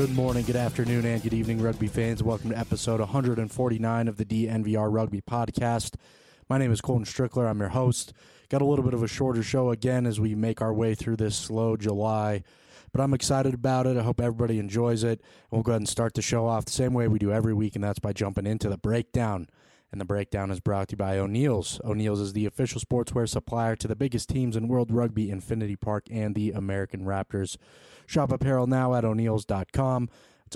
Good morning, good afternoon, and good evening, rugby fans. Welcome to episode 149 of the DNVR Rugby Podcast. My name is Colton Strickler. I'm your host. Got a little bit of a shorter show again as we make our way through this slow July, but I'm excited about it. I hope everybody enjoys it. We'll go ahead and start the show off the same way we do every week, and that's by jumping into the breakdown. And the breakdown is brought to you by O'Neill's. O'Neill's is the official sportswear supplier to the biggest teams in World Rugby, Infinity Park, and the American Raptors. Shop apparel now at O'Neills.com. It's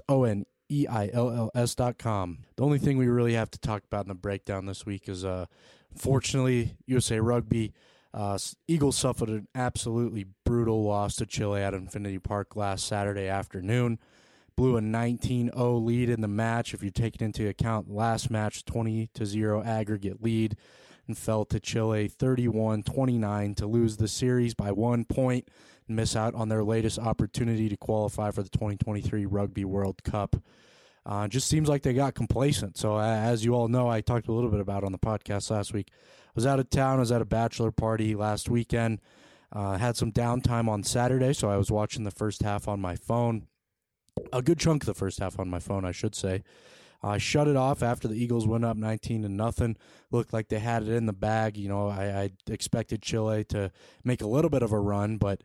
ONEILLS.com. The only thing we really have to talk about in the breakdown this week is, fortunately, USA Rugby. Eagles suffered an absolutely brutal loss to Chile at Infinity Park last Saturday afternoon. Blew a 19-0 lead in the match. If you take it into account, last match 20-0 aggregate lead, and fell to Chile 31-29 to lose the series by 1 point and miss out on their latest opportunity to qualify for the 2023 Rugby World Cup. Just seems like they got complacent. So as you all know, I talked a little bit about it on the podcast last week. I was out of town. I was at a bachelor party last weekend. Had some downtime on Saturday, so I was watching the first half on my phone. A good chunk of the first half on my phone, I should say. I shut it off after the Eagles went up 19-0. Looked like they had it in the bag. You know, I expected Chile to make a little bit of a run, but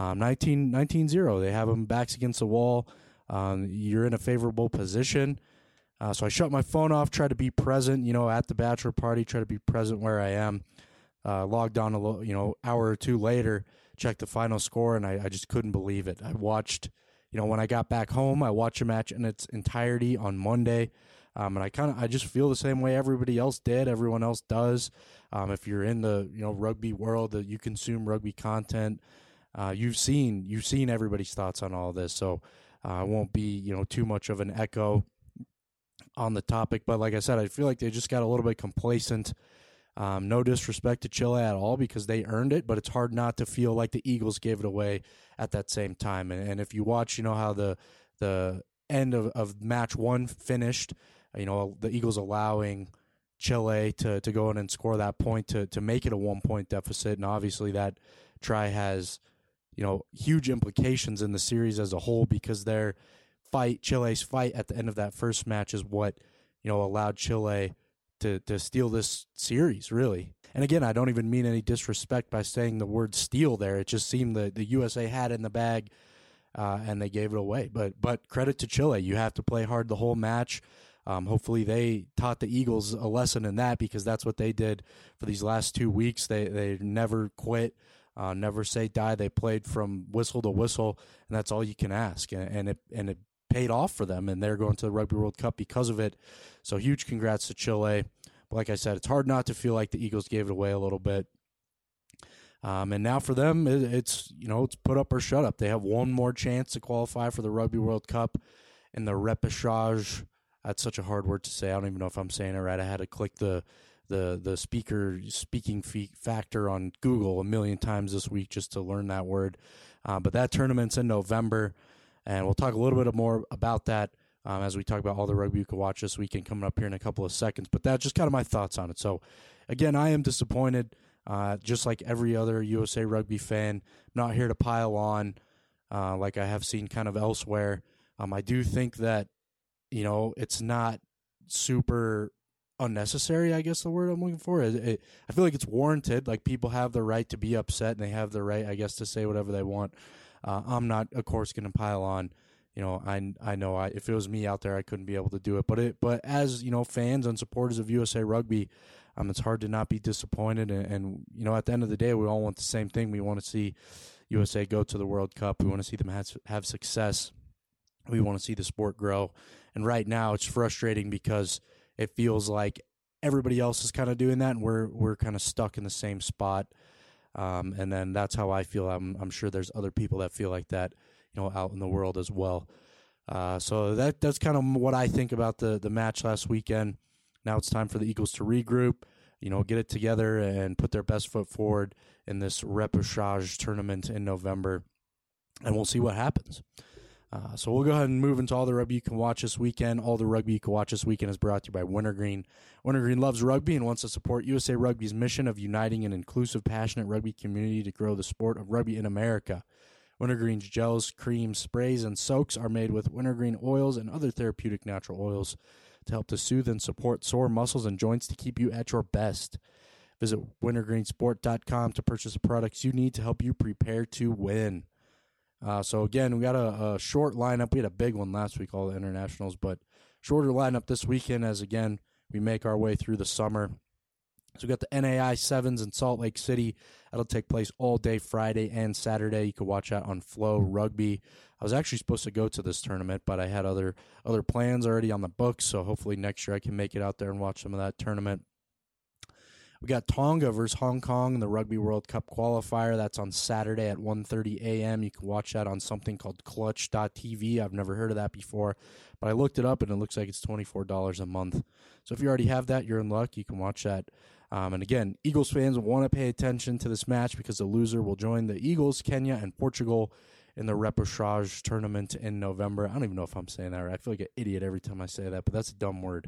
19-0. They have them backs against the wall. You're in a favorable position. So I shut my phone off, tried to be present, at the bachelor party, try to be present where I am. Logged on hour or two later, checked the final score, and I just couldn't believe it. I watched... when I got back home, I watched a match in its entirety on Monday, and I just feel the same way everybody else did, everyone else does. If you're in the rugby world, that you consume rugby content, you've seen everybody's thoughts on all of this. So I won't be too much of an echo on the topic, but like I said, I feel like they just got a little bit complacent. No disrespect to Chile at all because they earned it, but it's hard not to feel like the Eagles gave it away at that same time. And if you watch, how the end of match one finished, the Eagles allowing Chile to go in and score that point to make it a 1 point deficit. And obviously that try has, huge implications in the series as a whole because Chile's fight at the end of that first match is what, allowed Chile to steal this series, really. And again, I don't even mean any disrespect by saying the word steal there. It just seemed that the USA had it in the bag, and they gave it away. But credit to Chile. You have to play hard the whole match. Hopefully they taught the Eagles a lesson in that because that's what they did for these last 2 weeks. They never quit, never say die. They played from whistle to whistle, and that's all you can ask. And it paid off for them, and they're going to the Rugby World Cup because of it. So huge congrats to Chile. But like I said, it's hard not to feel like the Eagles gave it away a little bit. And now for them, it's put up or shut up. They have one more chance to qualify for the Rugby World Cup in the repêchage. That's such a hard word to say. I don't even know if I'm saying it right. I had to click the speaking factor on Google a million times this week just to learn that word. But that tournament's in November. And we'll talk a little bit more about that as we talk about all the rugby you can watch this weekend coming up here in a couple of seconds. But that's just kind of my thoughts on it. So, again, I am disappointed, just like every other USA Rugby fan. Not here to pile on like I have seen kind of elsewhere. I do think that, it's not super unnecessary, I guess the word I'm looking for. I feel like it's warranted. Like, people have the right to be upset, and they have the right, I guess, to say whatever they want. I'm not, of course, going to pile on. I know if it was me out there, I couldn't be able to do it. But as fans and supporters of USA Rugby, it's hard to not be disappointed. And at the end of the day, we all want the same thing. We want to see USA go to the World Cup. We want to see them have success. We want to see the sport grow. And right now, it's frustrating because it feels like everybody else is kind of doing that, and we're kind of stuck in the same spot. And then that's how I feel. I'm sure there's other people that feel like that, out in the world as well. So that's kind of what I think about the match last weekend. Now it's time for the Eagles to regroup, get it together and put their best foot forward in this repêchage tournament in November, and we'll see what happens. So we'll go ahead and move into all the rugby you can watch this weekend. All the rugby you can watch this weekend is brought to you by Wintergreen. Wintergreen loves rugby and wants to support USA Rugby's mission of uniting an inclusive, passionate rugby community to grow the sport of rugby in America. Wintergreen's gels, creams, sprays, and soaks are made with wintergreen oils and other therapeutic natural oils to help to soothe and support sore muscles and joints to keep you at your best. Visit wintergreensport.com to purchase the products you need to help you prepare to win. So, again, we got a short lineup. We had a big one last week, all the internationals, but shorter lineup this weekend as, again, we make our way through the summer. So we got the NAI Sevens in Salt Lake City. That'll take place all day Friday and Saturday. You can watch that on Flow Rugby. I was actually supposed to go to this tournament, but I had other plans already on the books, so hopefully next year I can make it out there and watch some of that tournament. We got Tonga versus Hong Kong in the Rugby World Cup qualifier. That's on Saturday at 1:30 a.m. You can watch that on something called Clutch.tv. I've never heard of that before, but I looked it up, and it looks like it's $24 a month. So if you already have that, you're in luck. You can watch that. And again, Eagles fans will want to pay attention to this match because the loser will join the Eagles, Kenya, and Portugal in the repechage tournament in November. I don't even know if I'm saying that right. I feel like an idiot every time I say that, but that's a dumb word.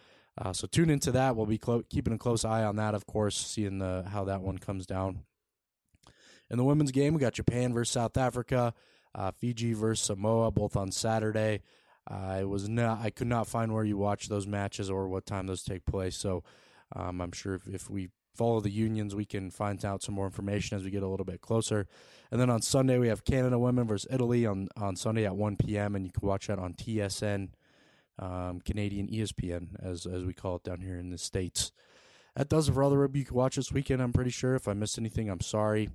So tune into that. We'll be keeping a close eye on that, of course, seeing how that one comes down. In the women's game, we got Japan versus South Africa, Fiji versus Samoa, both on Saturday. I could not find where you watch those matches or what time those take place. So I'm sure if we follow the unions, we can find out some more information as we get a little bit closer. And then on Sunday, we have Canada women versus Italy on Sunday at 1 p.m., and you can watch that on TSN. Canadian ESPN, as we call it down here in the States. That does it for all the rugby you can watch this weekend, I'm pretty sure. If I missed anything, I'm sorry.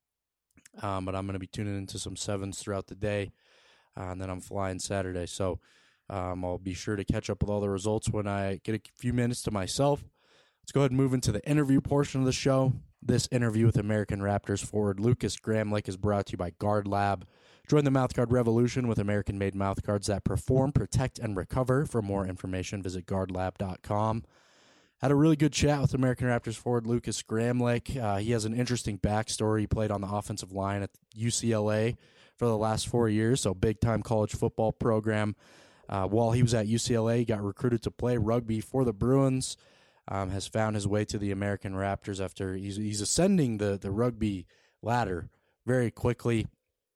But I'm going to be tuning into some sevens throughout the day, and then I'm flying Saturday. So I'll be sure to catch up with all the results when I get a few minutes to myself. Let's go ahead and move into the interview portion of the show. This interview with American Raptors forward Lucas Gramlich is brought to you by Guard Lab. Join the mouthguard revolution with American-made mouthguards that perform, protect, and recover. For more information, visit guardlab.com. Had a really good chat with American Raptors forward Lucas Gramlich. He has an interesting backstory. He played on the offensive line at UCLA for the last 4 years, so big-time college football program. While he was at UCLA, he got recruited to play rugby for the Bruins, has found his way to the American Raptors after he's ascending the rugby ladder very quickly.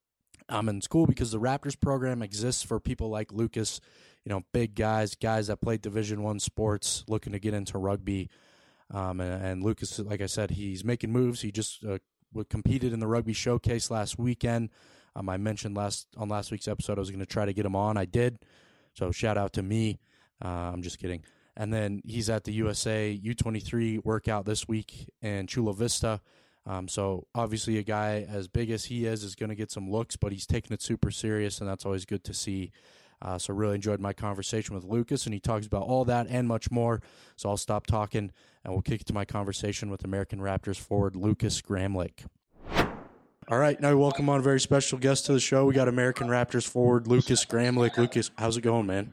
In school because the Raptors program exists for people like Lucas, big guys that play Division I sports, looking to get into rugby. And Lucas, like I said, he's making moves. He just competed in the Rugby Showcase last weekend. I mentioned last week's episode I was going to try to get him on. I did. So shout out to me. I'm just kidding. And then he's at the USA U23 workout this week in Chula Vista. So obviously a guy as big as he is going to get some looks, but he's taking it super serious, and that's always good to see. So really enjoyed my conversation with Lucas, and he talks about all that and much more. So I'll stop talking, and we'll kick to my conversation with American Raptors forward Lucas Gramlich. All right, now we welcome on a very special guest to the show. We got American Raptors forward Lucas Gramlich. Lucas, how's it going, man?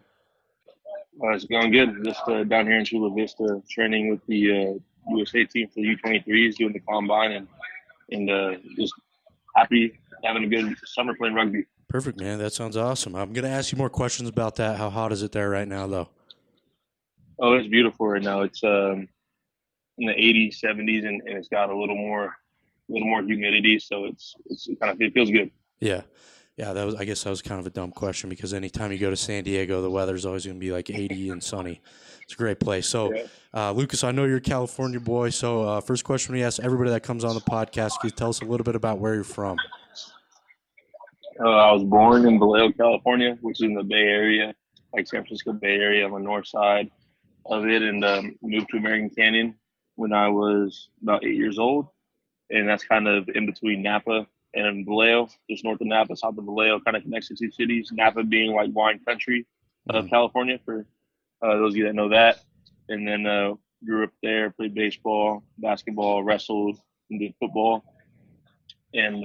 It's going good. Just down here in Chula Vista, training with the USA team for the U23s, doing the combine, and just happy having a good summer playing rugby. Perfect, man. That sounds awesome. I'm going to ask you more questions about that. How hot is it there right now, though? Oh, it's beautiful right now. It's in the 80s, 70s, and it's got a little more humidity, so it feels good. Yeah. Yeah, I guess that was kind of a dumb question because anytime you go to San Diego, the weather's always going to be like 80 and sunny. It's a great place. So, Lucas, I know you're a California boy. So, first question we ask everybody that comes on the podcast, can you tell us a little bit about where you're from? I was born in Vallejo, California, which is in the Bay Area, like San Francisco Bay Area on the north side of it, and moved to American Canyon when I was about 8 years old. And that's kind of in between Napa and Vallejo, just north of Napa, south of Vallejo, kind of connects the two cities. Napa being like wine country of California, for those of you that know that. And then grew up there, played baseball, basketball, wrestled, and did football. And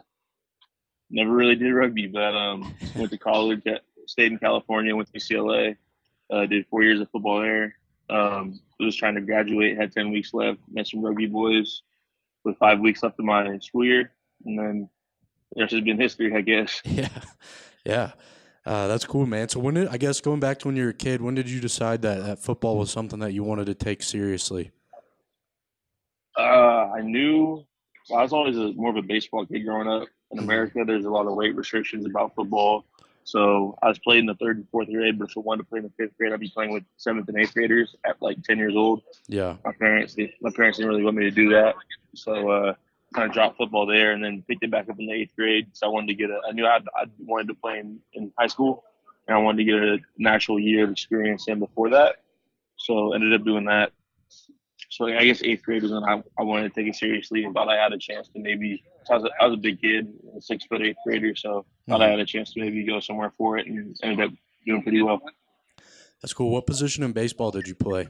never really did rugby, but went to college, stayed in California, went to UCLA, did 4 years of football there. Was trying to graduate, had 10 weeks left, met some rugby boys with 5 weeks left of my school year. And then the rest has been history, I guess. Yeah. That's cool, man. So going back to when you were a kid, when did you decide that football was something that you wanted to take seriously? I was always more of a baseball kid growing up. In Mhm. America, there's a lot of weight restrictions about football. So I was playing in the third and fourth grade, but if I wanted to play in the fifth grade, I'd be playing with seventh and eighth graders at like 10 years old. Yeah. My parents didn't really want me to do that, so kind of dropped football there, and then picked it back up in the eighth grade. So I wanted to I knew I wanted to play in high school, and I wanted to get an actual year of experience in before that. So ended up doing that. So I guess eighth grade was when I wanted to take it seriously and thought I had a chance to maybe. So I was a big kid, a 6 foot eighth grader, so thought I Mhm. had a chance to maybe go somewhere for it, and ended up doing pretty well. That's cool. What position in baseball did you play?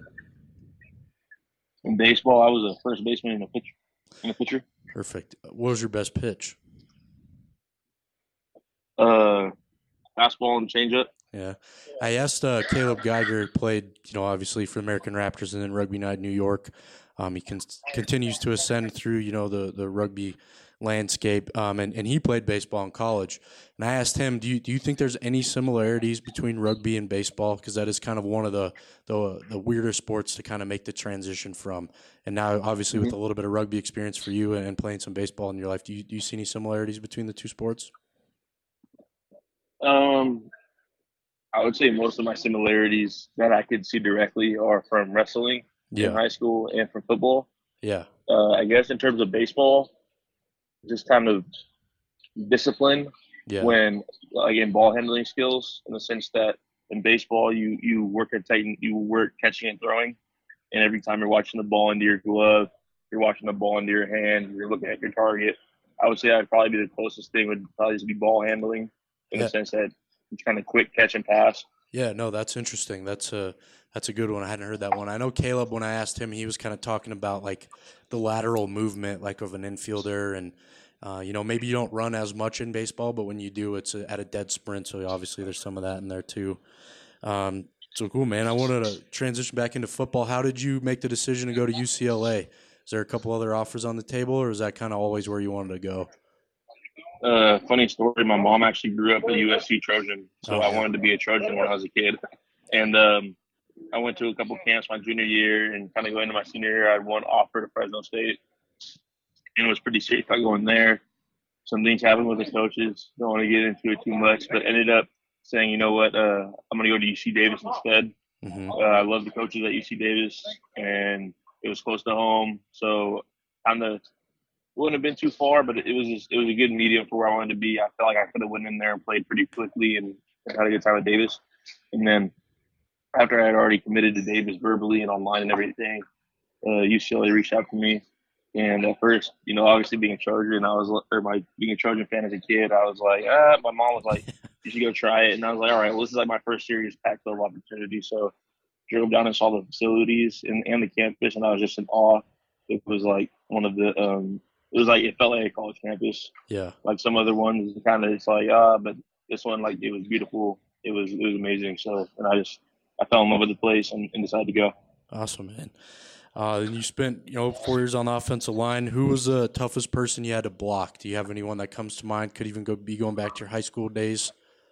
In baseball, I was a first baseman and a pitcher. Perfect. What was your best pitch? Uh, Fastball and changeup. Yeah. I asked Caleb Geiger, played, obviously for American Raptors and then Rugby Night New York. He continues to ascend through, the rugby landscape, and he played baseball in college. And I asked him, do you think there's any similarities between rugby and baseball? Because that is kind of one of the weirder sports to kind of make the transition from. And now, obviously, with a little bit of rugby experience for you and playing some baseball in your life, do you see any similarities between the two sports? Um, I would say most of my similarities that I could see directly are from wrestling in Yeah. high school and from football. Yeah. I guess in terms of baseball, just kind of discipline Yeah. when like in ball handling skills in the sense that in baseball you work at Titan, you work catching and throwing, and every time you're watching the ball into your glove, you're watching the ball into your hand, you're looking at your target. I would say that'd probably be the closest thing would probably just be ball handling in the Yeah. sense that it's kind of quick catch and pass. Yeah, no, that's interesting. That's a good one. I hadn't heard that one. I know Caleb, when I asked him, he was kind of talking about like the lateral movement, like of an infielder, and maybe you don't run as much in baseball, but when you do, it's at a dead sprint. So obviously, there's some of that in there too. So cool, man. I wanted to transition back into football. How did you make the decision to go to UCLA? Is there a couple other offers on the table, or is that kind of always where you wanted to go? Funny story. My mom actually grew up a USC Trojan, so Oh I yeah. wanted to be a Trojan when I was a kid. And I went to a couple camps my junior year, and kind of going into my senior year, I had one offer to Fresno State, and it was pretty safe by going there. Some things happened with the coaches. Don't want to get into it too much, but ended up saying, you know what, I'm going to go to UC Davis instead. Hmm. I love the coaches at UC Davis, and it was close to home, so kind of wouldn't have been too far, but it was a good medium for where I wanted to be. I felt like I could have went in there and played pretty quickly and had a good time at Davis. And then after I had already committed to Davis verbally and online and everything, UCLA reached out to me. And at first, obviously being a Charger and being a Trojan fan as a kid, I was like, my mom was like, you should go try it. And I was like, all right, well, this is like my first serious Pac-12 opportunity. So drove down and saw the facilities and the campus, and I was just in awe. It was like one of it was like it felt like a college campus. Yeah. Like some other ones, kind of it's like but this one like it was beautiful. It was amazing. So and I fell in love with the place and decided to go. Awesome, man. Then you spent, 4 years on the offensive line. Who was the toughest person you had to block? Do you have anyone that comes to mind? Could even be going back to your high school days.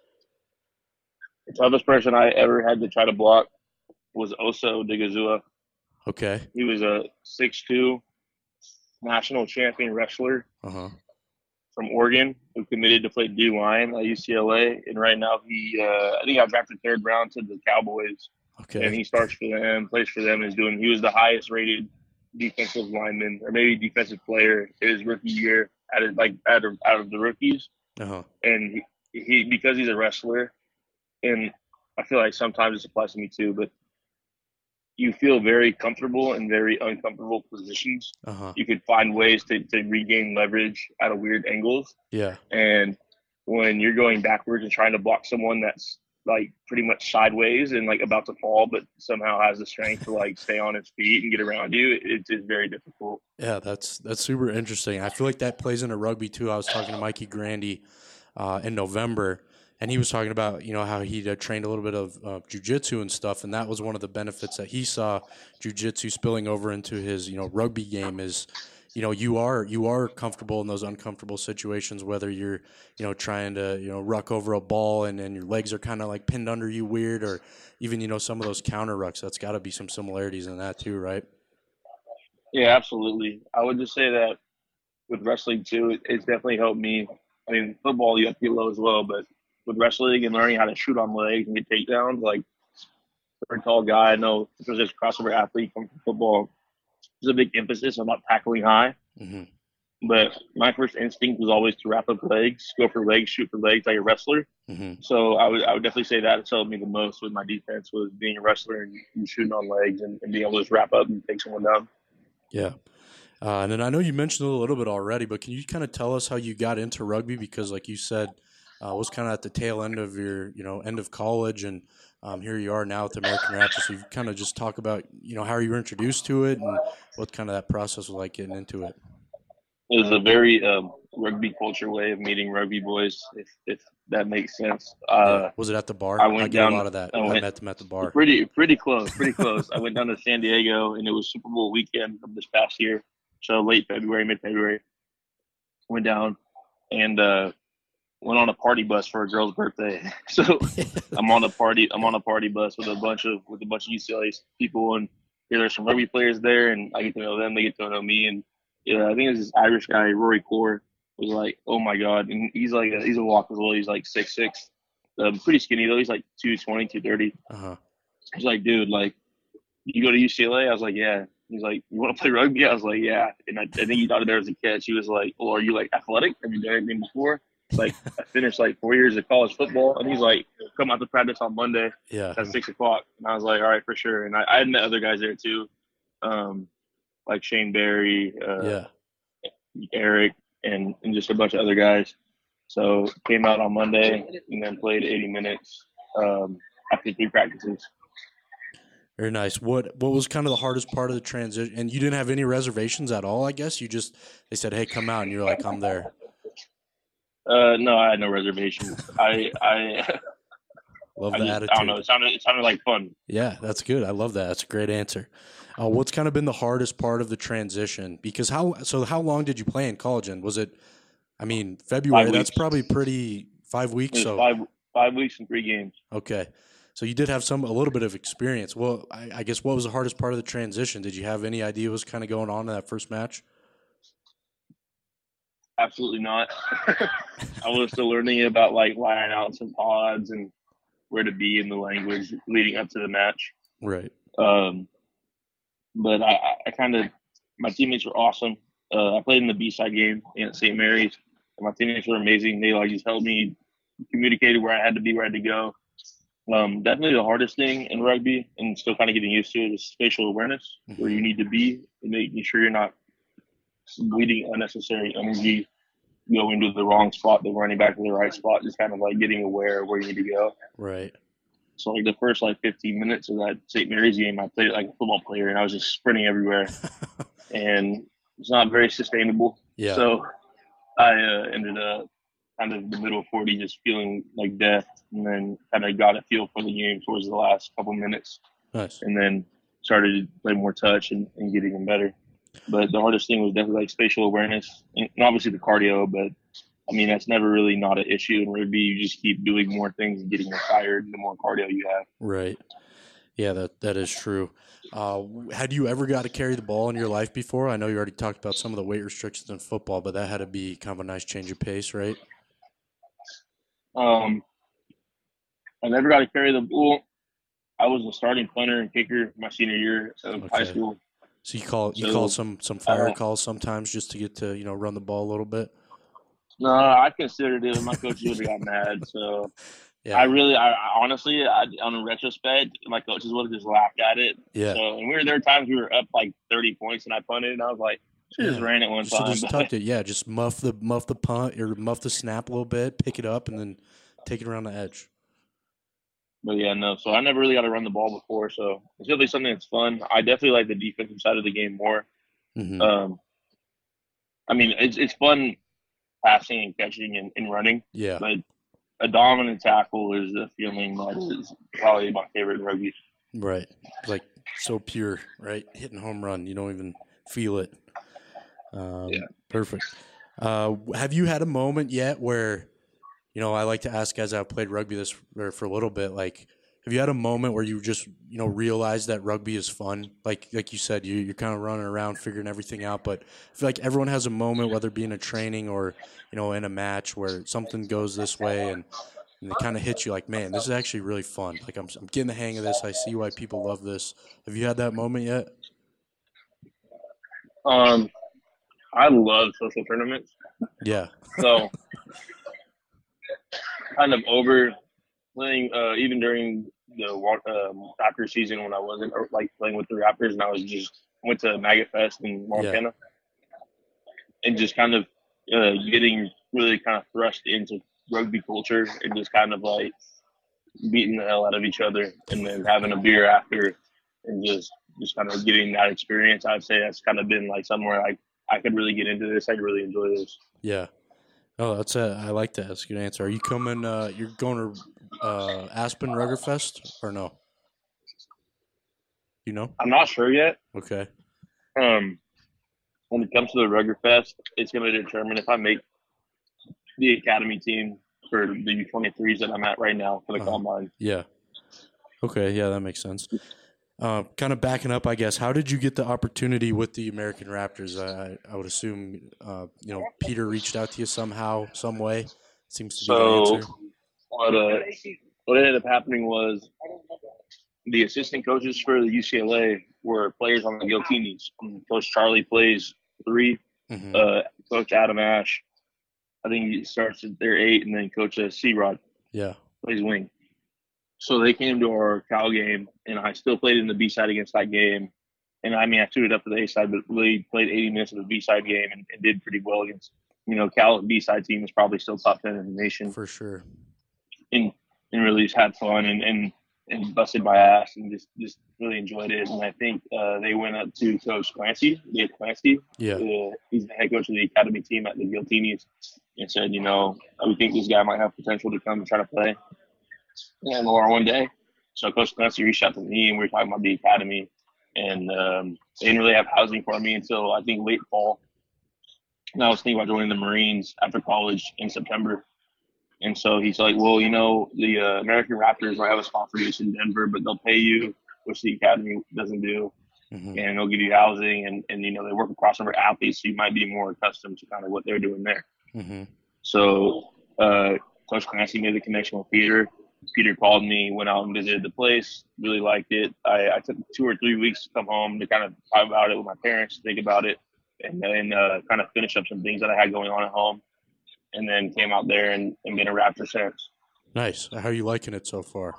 The toughest person I ever had to try to block was Oso Digazua. Okay. He was a 6'2" national champion wrestler Uh huh. from Oregon who committed to play D line at UCLA, and right now I think got drafted third round to the Cowboys, and Okay. he starts for them, plays for them, and he was the highest rated defensive lineman or maybe defensive player his rookie year out of the rookies, Uh huh. and he because he's a wrestler, and I feel like sometimes this applies to me too, but you feel very comfortable in very uncomfortable positions. Uh huh. You could find ways to regain leverage out of weird angles. Yeah. And when you're going backwards and trying to block someone that's like pretty much sideways and like about to fall, but somehow has the strength to like stay on its feet and get around you, it's very difficult. Yeah. That's super interesting. I feel like that plays into rugby too. I was talking to Mikey Grandy in November, and he was talking about how he trained a little bit of jujitsu and stuff, and that was one of the benefits that he saw jujitsu spilling over into his rugby game is you are comfortable in those uncomfortable situations, whether you're trying to ruck over a ball and your legs are kind of like pinned under you weird, or even some of those counter rucks. That's got to be some similarities in that too, right? Yeah, absolutely. I would just say that with wrestling too, it's definitely helped me I mean, football you have to get low as well, but with wrestling and learning how to shoot on legs and get takedowns, like for a tall guy, I know if there's this crossover athlete from football, there's a big emphasis about tackling high. Mm-hmm. But my first instinct was always to wrap up legs, go for legs, shoot for legs like a wrestler. Mm-hmm. So I would definitely say that helped me the most with my defense was being a wrestler and shooting on legs and being able to just wrap up and take someone down. Yeah. And then I know you mentioned it a little bit already, but can you kind of tell us how you got into rugby? Because like you said, it was kind of at the tail end of your, end of college, and here you are now with the American Raptors. So you kind of just talk about, how you were introduced to it and what kind of that process was like getting into it. It was a very rugby culture way of meeting rugby boys, if that makes sense. Yeah. Was it at the bar? I get a lot of that. I met them at the bar. Pretty close. I went down to San Diego, and it was Super Bowl weekend of this past year, so late February, mid-February. Went down and went on a party bus for a girl's birthday. So I'm on a party bus with a bunch of UCLA people, and there's some rugby players there, and I get to know them. They get to know me, and yeah, I think it's this Irish guy, Rory Core, was like, oh my god, and he's a walk as well. He's like 6'6", pretty skinny though. He's like 220, 230. He's like, dude, like, you go to UCLA? I was like, yeah. He's like, you want to play rugby? I was like, yeah. And I think he thought there was a catch. He was like, well, are you like athletic? Have you done anything before? Like, I finished like 4 years of college football, and he's like, come out to practice on Monday at 6:00. And I was like, all right, for sure. And I had met other guys there too. Like Shane Barry, Eric, and just a bunch of other guys. So came out on Monday and then played 80 minutes after 3 practices. Very nice. What was kind of the hardest part of the transition? And you didn't have any reservations at all, I guess? They said, hey, come out, and you're like, I'm there. No, I had no reservations. I love the attitude. I don't know. It sounded like fun. Yeah, that's good. I love that. That's a great answer. What's kind of been the hardest part of the transition? Because how long did you play in college? And was it, February? That's probably 5 weeks. So 5 weeks and 3 games. Okay, so you did have a little bit of experience. Well, I guess what was the hardest part of the transition? Did you have any idea what was kind of going on in that first match? Absolutely not. I was still learning about like lineouts and pods and where to be in the language leading up to the match. Right. But I kind of, my teammates were awesome. I played in the B-side game at St. Mary's, and my teammates were amazing. They like just helped me, communicated where I had to be, where I had to go. Definitely the hardest thing in rugby, and still kind of getting used to it, is spatial awareness, where you need to be, and making sure you're not bleeding unnecessary energy, going to the wrong spot, then running back to the right spot, just kind of like getting aware of where you need to go. Right. So like the first 15 minutes of that St. Mary's game, I played like a football player, and I was just sprinting everywhere, and it's not very sustainable. Yeah. So I ended up kind of the middle of 40, just feeling like death, and then kind of got a feel for the game towards the last couple minutes. Nice. And then started to play more touch and getting them better. But the hardest thing was definitely like spatial awareness, and obviously the cardio, but that's never really not an issue in rugby. You just keep doing more things and getting more tired the more cardio you have. Right. Yeah, that is true. Had you ever got to carry the ball in your life before? I know you already talked about some of the weight restrictions in football, but that had to be kind of a nice change of pace, right? I never got to carry the ball. I was a starting punter and kicker my senior year of high school. So you call some fire calls sometimes just to get to run the ball a little bit. No, I considered it. My coaches would have got mad. So yeah. I honestly, on a retrospect, my coaches would have just laughed at it. Yeah. So and there were times we were up like 30 points and I punted, and I was like, just ran it one time. Just tucked it. Yeah, just muff the punt or muff the snap a little bit, pick it up, and then take it around the edge. But yeah, no. So I never really got to run the ball before, so it's definitely something that's fun. I definitely like the defensive side of the game more. Mm-hmm. It's fun passing and catching and running. Yeah. But a dominant tackle is a feeling that is probably my favorite in rugby. Right. It's like so pure, right? Hitting home run, you don't even feel it. Yeah. Perfect. Have you had a moment yet where, I like to ask guys that have played rugby for a little bit, like Have you had a moment where you just realized that rugby is fun? Like you said, you're kind of running around figuring everything out, but I feel like everyone has a moment, whether it be in a training or in a match, where something goes this way and it kind of hits you like, man, this is actually really fun. Like I'm getting the hang of this. I see why people love this. Have you had that moment yet? Um, I love social tournaments. Yeah. So kind of over playing, even during the Raptors season when I wasn't like playing with the Raptors and I was just went to Maggot Fest in Yeah. Montana and just kind of getting really kind of thrust into rugby culture and just kind of like beating the hell out of each other and then having a beer after and just kind of getting that experience. I'd say that's kind of been like somewhere I could really get into this. I could really enjoy this. Yeah. Oh, I like that. That's a good answer. Are you coming? You're going to Aspen Ruggerfest or no? You know? I'm not sure yet. Okay. Um, when it comes to the Rugger Fest, it's going to determine if I make the academy team for the U23s that I'm at right now for the combine. Yeah. Okay. Yeah, that makes sense. Kind of backing up, I guess. How did you get the opportunity with the American Raptors? I would assume, Peter reached out to you somehow, some way. Seems to be the answer. What ended up happening was the assistant coaches for the UCLA were players on the Giltinis. Coach Charlie plays 3. Mm-hmm. Coach Adam Ash, I think he starts at their 8, and then Coach C-Rod plays wing. So they came to our Cal game, and I still played in the B-side against that game. And, I mean, I suited up for the A-side, but really played 80 minutes of the B-side game and did pretty well against, Cal B-side team is probably still top 10 in the nation. For sure. And really just had fun and busted my ass and just really enjoyed it. And I think they went up to Coach Clancy, Dave Clancy. Yeah. He's the head coach of the academy team at the Giltinis, and said, we think this guy might have potential to come and try to play in Laura one day. So Coach Clancy reached out to me, and we were talking about the academy. And they didn't really have housing for me until, I think, late fall. And I was thinking about joining the Marines after college in September. And so he's like, well, the American Raptors might have a spot for you in Denver, but they'll pay you, which the academy doesn't do. Mm-hmm. And they'll give you housing. And they work with crossover athletes, so you might be more accustomed to kind of what they're doing there. Mm-hmm. So Coach Clancy made the connection with Peter. Peter called me, went out and visited the place, really liked it. I took 2 or 3 weeks to come home to kind of talk about it with my parents, think about it, and then kind of finish up some things that I had going on at home. And then came out there and been a Raptor since. Nice. How are you liking it so far?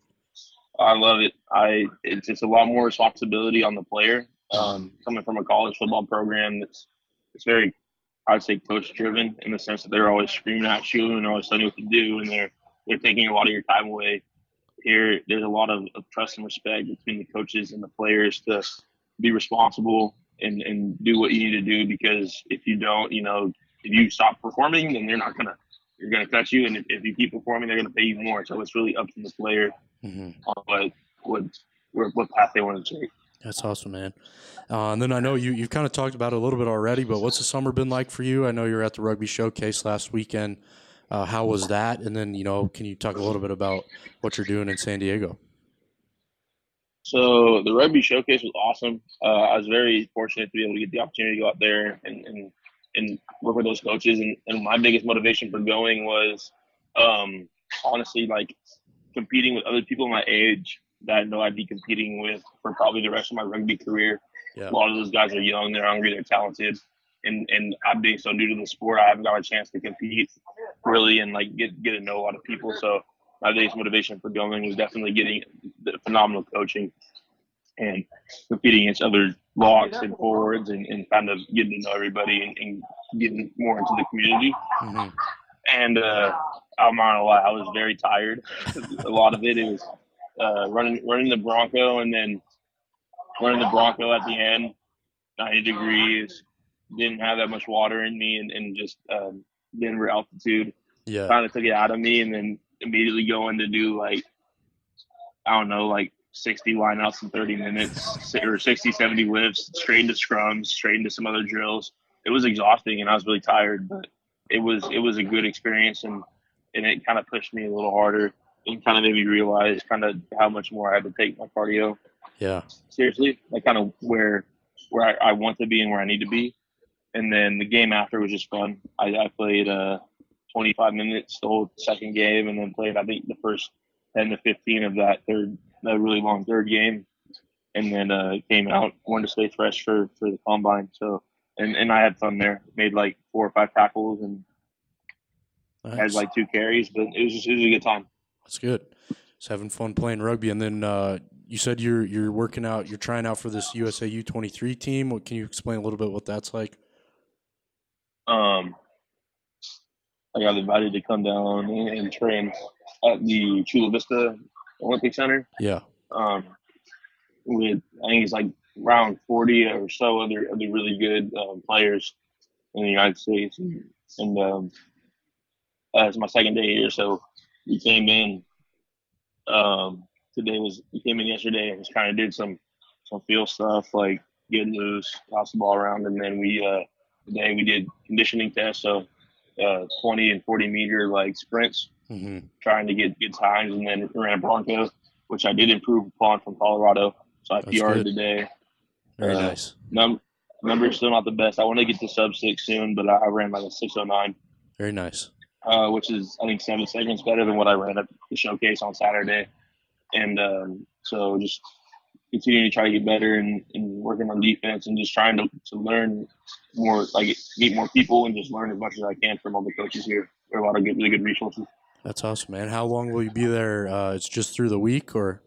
I love it. It's just a lot more responsibility on the player. Coming from a college football program it's very, I'd say, coach driven in the sense that they're always screaming at you and they're always telling you what to do, and they're taking a lot of your time away. Here, there's a lot of trust and respect between the coaches and the players to be responsible and do what you need to do, because if you don't, if you stop performing, then you're going to cut you. And if you keep performing, they're going to pay you more. So it's really up to the player on what path they want to take. That's awesome, man. And then I know you've kind of talked about it a little bit already, but what's the summer been like for you? I know you were at the Rugby Showcase last weekend. How was that? And then, can you talk a little bit about what you're doing in San Diego? So the Rugby Showcase was awesome. I was very fortunate to be able to get the opportunity to go out there and work with those coaches. And my biggest motivation for going was honestly, like, competing with other people my age that I know I'd be competing with for probably the rest of my rugby career. Yeah. A lot of those guys are young, they're hungry, they're talented. And I'm being so new to the sport, I haven't got a chance to compete really and like get to know a lot of people. So my biggest motivation for going was definitely getting the phenomenal coaching and competing against other locks and forwards and kind of getting to know everybody and getting more into the community. Mm-hmm. And I'm not gonna lie, I was very tired. A lot of it was running the Bronco and then running the Bronco at the end, 90 degrees, didn't have that much water in me and just Denver altitude kind of took it out of me, and then immediately going to do like 60 lineouts in 30 minutes or 60, 70 lifts, straight into scrums, straight into some other drills. It was exhausting and I was really tired, but it was a good experience and it kind of pushed me a little harder it kind of made me realize kind of how much more I had to take my cardio Yeah. seriously, like kind of where I want to be and where I need to be. And then the game after was just fun. I played 25 minutes the whole second game, and then played I think the first 10 to 15 of that really long third game, and then came out, wanted to stay fresh for the combine. So and I had fun there. Made like 4 or 5 tackles and had like 2 carries, but it was a good time. That's good. Just having fun playing rugby, and then you said you're working out, you're trying out for this USA U23 team. Can you explain a little bit what that's like? I got invited to come down and train at the Chula Vista Olympic Center. Yeah. With I think it's like around 40 or so other really good players in the United States, and it's my second day here, so we came in. We came in yesterday and just kind of did some field stuff like get loose, toss the ball around, and then today we did conditioning tests, so 20 and 40 meter like sprints, trying to get good times, and then ran a Bronco, which I did improve upon from Colorado. So I PR'd today. Very nice. Number's still not the best. I want to get to sub 6 soon, but I ran like a 6:09. Very nice. Which is I think 7 seconds better than what I ran at the showcase on Saturday. And so just continuing to try to get better and working on defense and just trying to learn more, like meet more people and just learn as much as I can from all the coaches here. There are a lot of really good resources. That's awesome, man. How long will you be there? It's just through the week, or?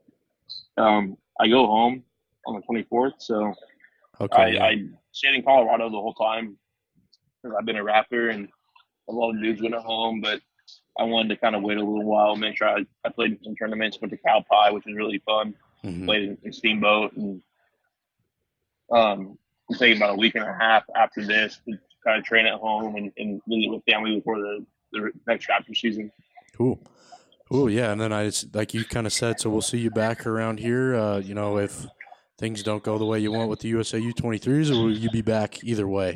I go home on the 24th, so okay, I stayed in Colorado the whole time because I've been a Raptor and a lot of dudes went at home, but I wanted to kind of wait a little while, make sure I played in some tournaments, went to Cal Pi, which was really fun. Played in Steamboat, and I'm taking about a week and a half after this to kind of train at home and visit with family before the next Raptor season. Cool. Yeah, and then like you kind of said, so we'll see you back around here. If things don't go the way you want with the USA U23s, or will you be back either way?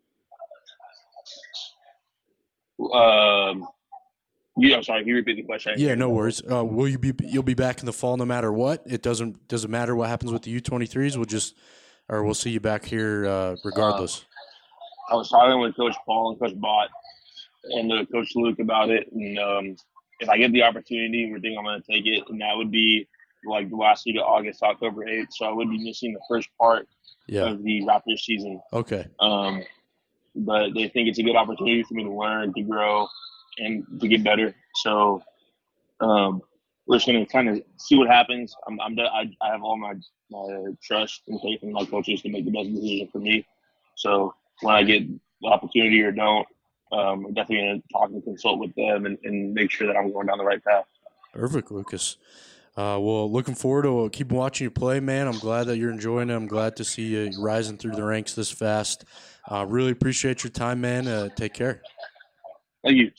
I'm sorry. Can you repeat the question? Yeah, no worries. You'll be back in the fall no matter what? It doesn't matter what happens with the U23s. We'll see you back here regardless. I was talking with Coach Paul and Coach Bott and Coach Luke about it, and if I get the opportunity, we think I'm going to take it, and that would be like the last week of August, October 8th. So I would be missing the first part of the Raptors season. Okay. But they think it's a good opportunity for me to learn, to grow, and to get better. So we're just going to kind of see what happens. I have all my trust and faith in my coaches to make the best decision for me. So when I get the opportunity or don't, I'm definitely going to talk and consult with them and make sure that I'm going down the right path. Perfect, Lucas. Well, looking forward to keep watching you play, man. I'm glad that you're enjoying it. I'm glad to see you rising through the ranks this fast. Really appreciate your time, man. Take care. Thank you.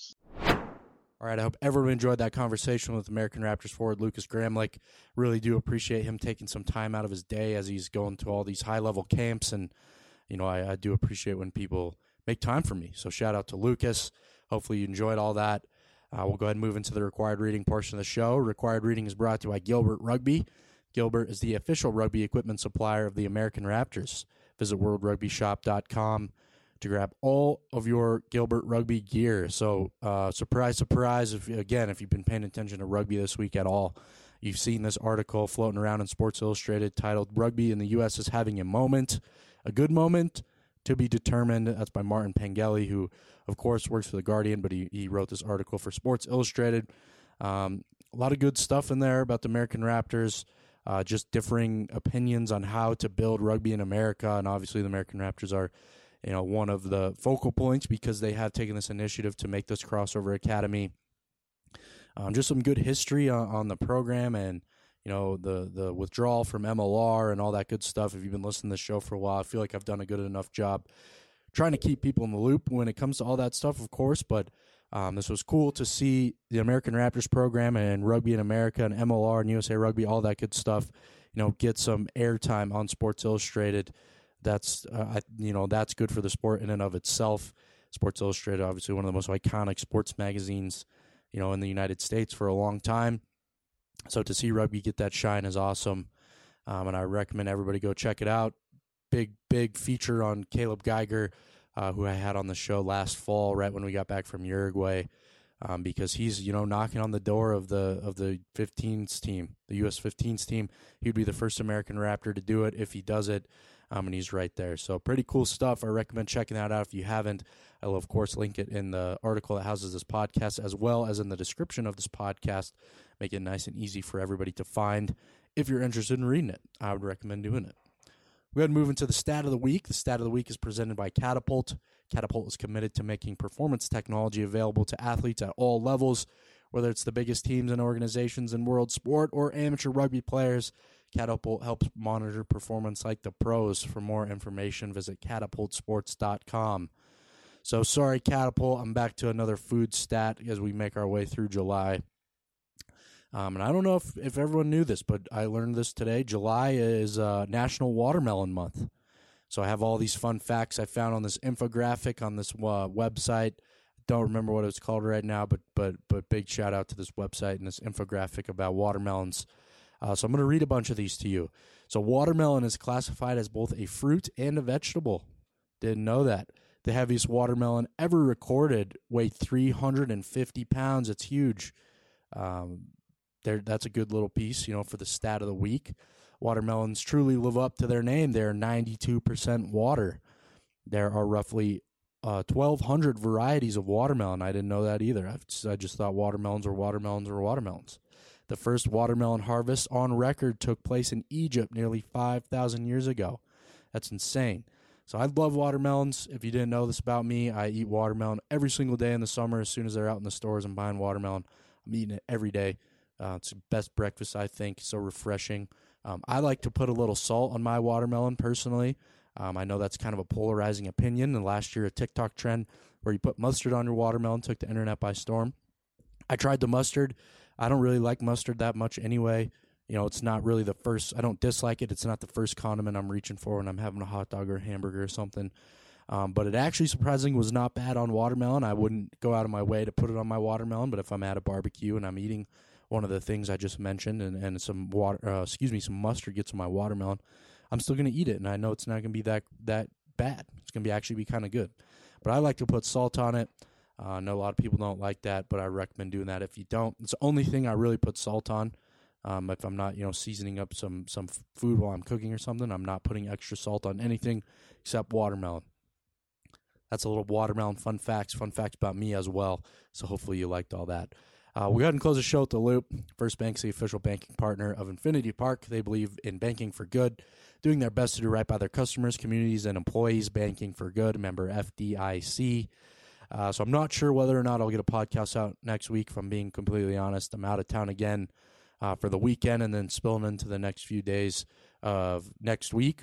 All right, I hope everyone enjoyed that conversation with American Raptors forward Lucas Gramlich. Really do appreciate him taking some time out of his day as he's going to all these high-level camps, and I do appreciate when people make time for me. So shout out to Lucas. Hopefully you enjoyed all that. We'll go ahead and move into the required reading portion of the show. Required reading is brought to you by Gilbert Rugby. Gilbert is the official rugby equipment supplier of the American Raptors. Visit worldrugbyshop.com to grab all of your Gilbert Rugby gear. So surprise, surprise, if you've been paying attention to rugby this week at all, you've seen this article floating around in Sports Illustrated titled "Rugby in the U.S. is Having a Moment, a Good Moment, to be Determined." That's by Martin Pengelly, who, of course, works for The Guardian, but he wrote this article for Sports Illustrated. A lot of good stuff in there about the American Raptors, just differing opinions on how to build rugby in America, and obviously the American Raptors are one of the focal points because they have taken this initiative to make this crossover academy. Just some good history on the program and, the withdrawal from MLR and all that good stuff. If you've been listening to the show for a while, I feel like I've done a good enough job trying to keep people in the loop when it comes to all that stuff, of course. But this was cool to see the American Raptors program and Rugby in America and MLR and USA Rugby, all that good stuff, get some airtime on Sports Illustrated. That's that's good for the sport in and of itself. Sports Illustrated, obviously one of the most iconic sports magazines in the United States for a long time. So to see rugby get that shine is awesome, and I recommend everybody go check it out. Big feature on Caleb Geiger, who I had on the show last fall, right when we got back from Uruguay, because he's knocking on the door of the 15s team, the U.S. 15s team. He'd be the first American Raptor to do it if he does it, and he's right there. So pretty cool stuff. I recommend checking that out if you haven't. I will, of course, link it in the article that houses this podcast, as well as in the description of this podcast. Make it nice and easy for everybody to find. If you're interested in reading it, I would recommend doing it. We're going to move into the stat of the week. The stat of the week is presented by Catapult. Catapult is committed to making performance technology available to athletes at all levels, whether it's the biggest teams and organizations in world sport or amateur rugby players. Catapult helps monitor performance like the pros. For more information, visit catapultsports.com. So sorry, Catapult, I'm back to another food stat as we make our way through July. And I don't know if everyone knew this, but I learned this today. July is National Watermelon Month. So I have all these fun facts I found on this infographic on this website. Don't remember what it's called right now, but big shout out to this website and this infographic about watermelons. So I'm going to read a bunch of these to you. So watermelon is classified as both a fruit and a vegetable. Didn't know that. The heaviest watermelon ever recorded weighed 350 pounds. It's huge. That's a good little piece, for the stat of the week. Watermelons truly live up to their name. They're 92% water. There are roughly 1,200 varieties of watermelon. I didn't know that either. I just thought watermelons were watermelons or watermelons. The first watermelon harvest on record took place in Egypt nearly 5,000 years ago. That's insane. So I love watermelons. If you didn't know this about me, I eat watermelon every single day in the summer. As soon as they're out in the stores, I'm buying watermelon. I'm eating it every day. It's the best breakfast, I think. So refreshing. I like to put a little salt on my watermelon personally. I know that's kind of a polarizing opinion. And last year, a TikTok trend where you put mustard on your watermelon took the internet by storm. I tried the mustard. I don't really like mustard that much anyway. It's not really the first. I don't dislike it. It's not the first condiment I'm reaching for when I'm having a hot dog or a hamburger or something. But it actually surprisingly was not bad on watermelon. I wouldn't go out of my way to put it on my watermelon, but if I'm at a barbecue and I'm eating one of the things I just mentioned and some some mustard gets on my watermelon, I'm still going to eat it, and I know it's not going to be that bad. It's going to actually be kind of good. But I like to put salt on it. I know a lot of people don't like that, but I recommend doing that if you don't. It's the only thing I really put salt on. If I'm not, seasoning up some food while I'm cooking or something, I'm not putting extra salt on anything except watermelon. That's a little watermelon fun facts about me as well. So hopefully you liked all that. We go ahead and close the show with the Loop. First Bank's the official banking partner of Infinity Park. They believe in banking for good, doing their best to do right by their customers, communities, and employees. Banking for good, member FDIC. So I'm not sure whether or not I'll get a podcast out next week, if I'm being completely honest. I'm out of town again for the weekend and then spilling into the next few days of next week.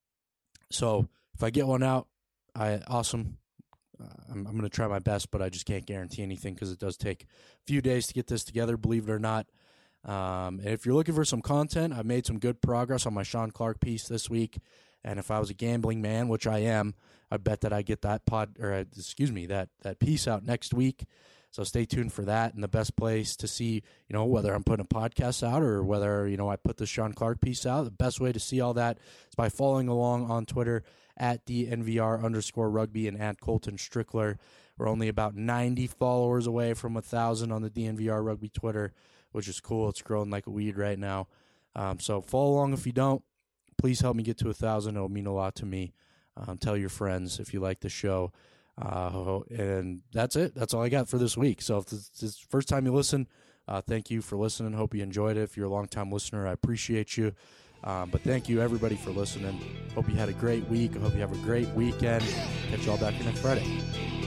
So if I get one out, awesome. I'm going to try my best, but I just can't guarantee anything because it does take a few days to get this together, believe it or not. And if you're looking for some content, I've made some good progress on my Sean Clark piece this week. And if I was a gambling man, which I am, I bet that I get that that piece out next week. So stay tuned for that. And the best place to see, whether I'm putting a podcast out or whether, I put the Sean Clark piece out, the best way to see all that is by following along on Twitter at DNVR_rugby and at Colton Strickler. We're only about 90 followers away from 1,000 on the DNVR Rugby Twitter, which is cool. It's growing like a weed right now. So follow along if you don't. Please help me get to 1,000. It'll mean a lot to me. Tell your friends if you like the show. And that's it. That's all I got for this week. So if this is the first time you listen, thank you for listening. Hope you enjoyed it. If you're a long-time listener, I appreciate you. But thank you, everybody, for listening. Hope you had a great week. I hope you have a great weekend. Catch you all back here next Friday.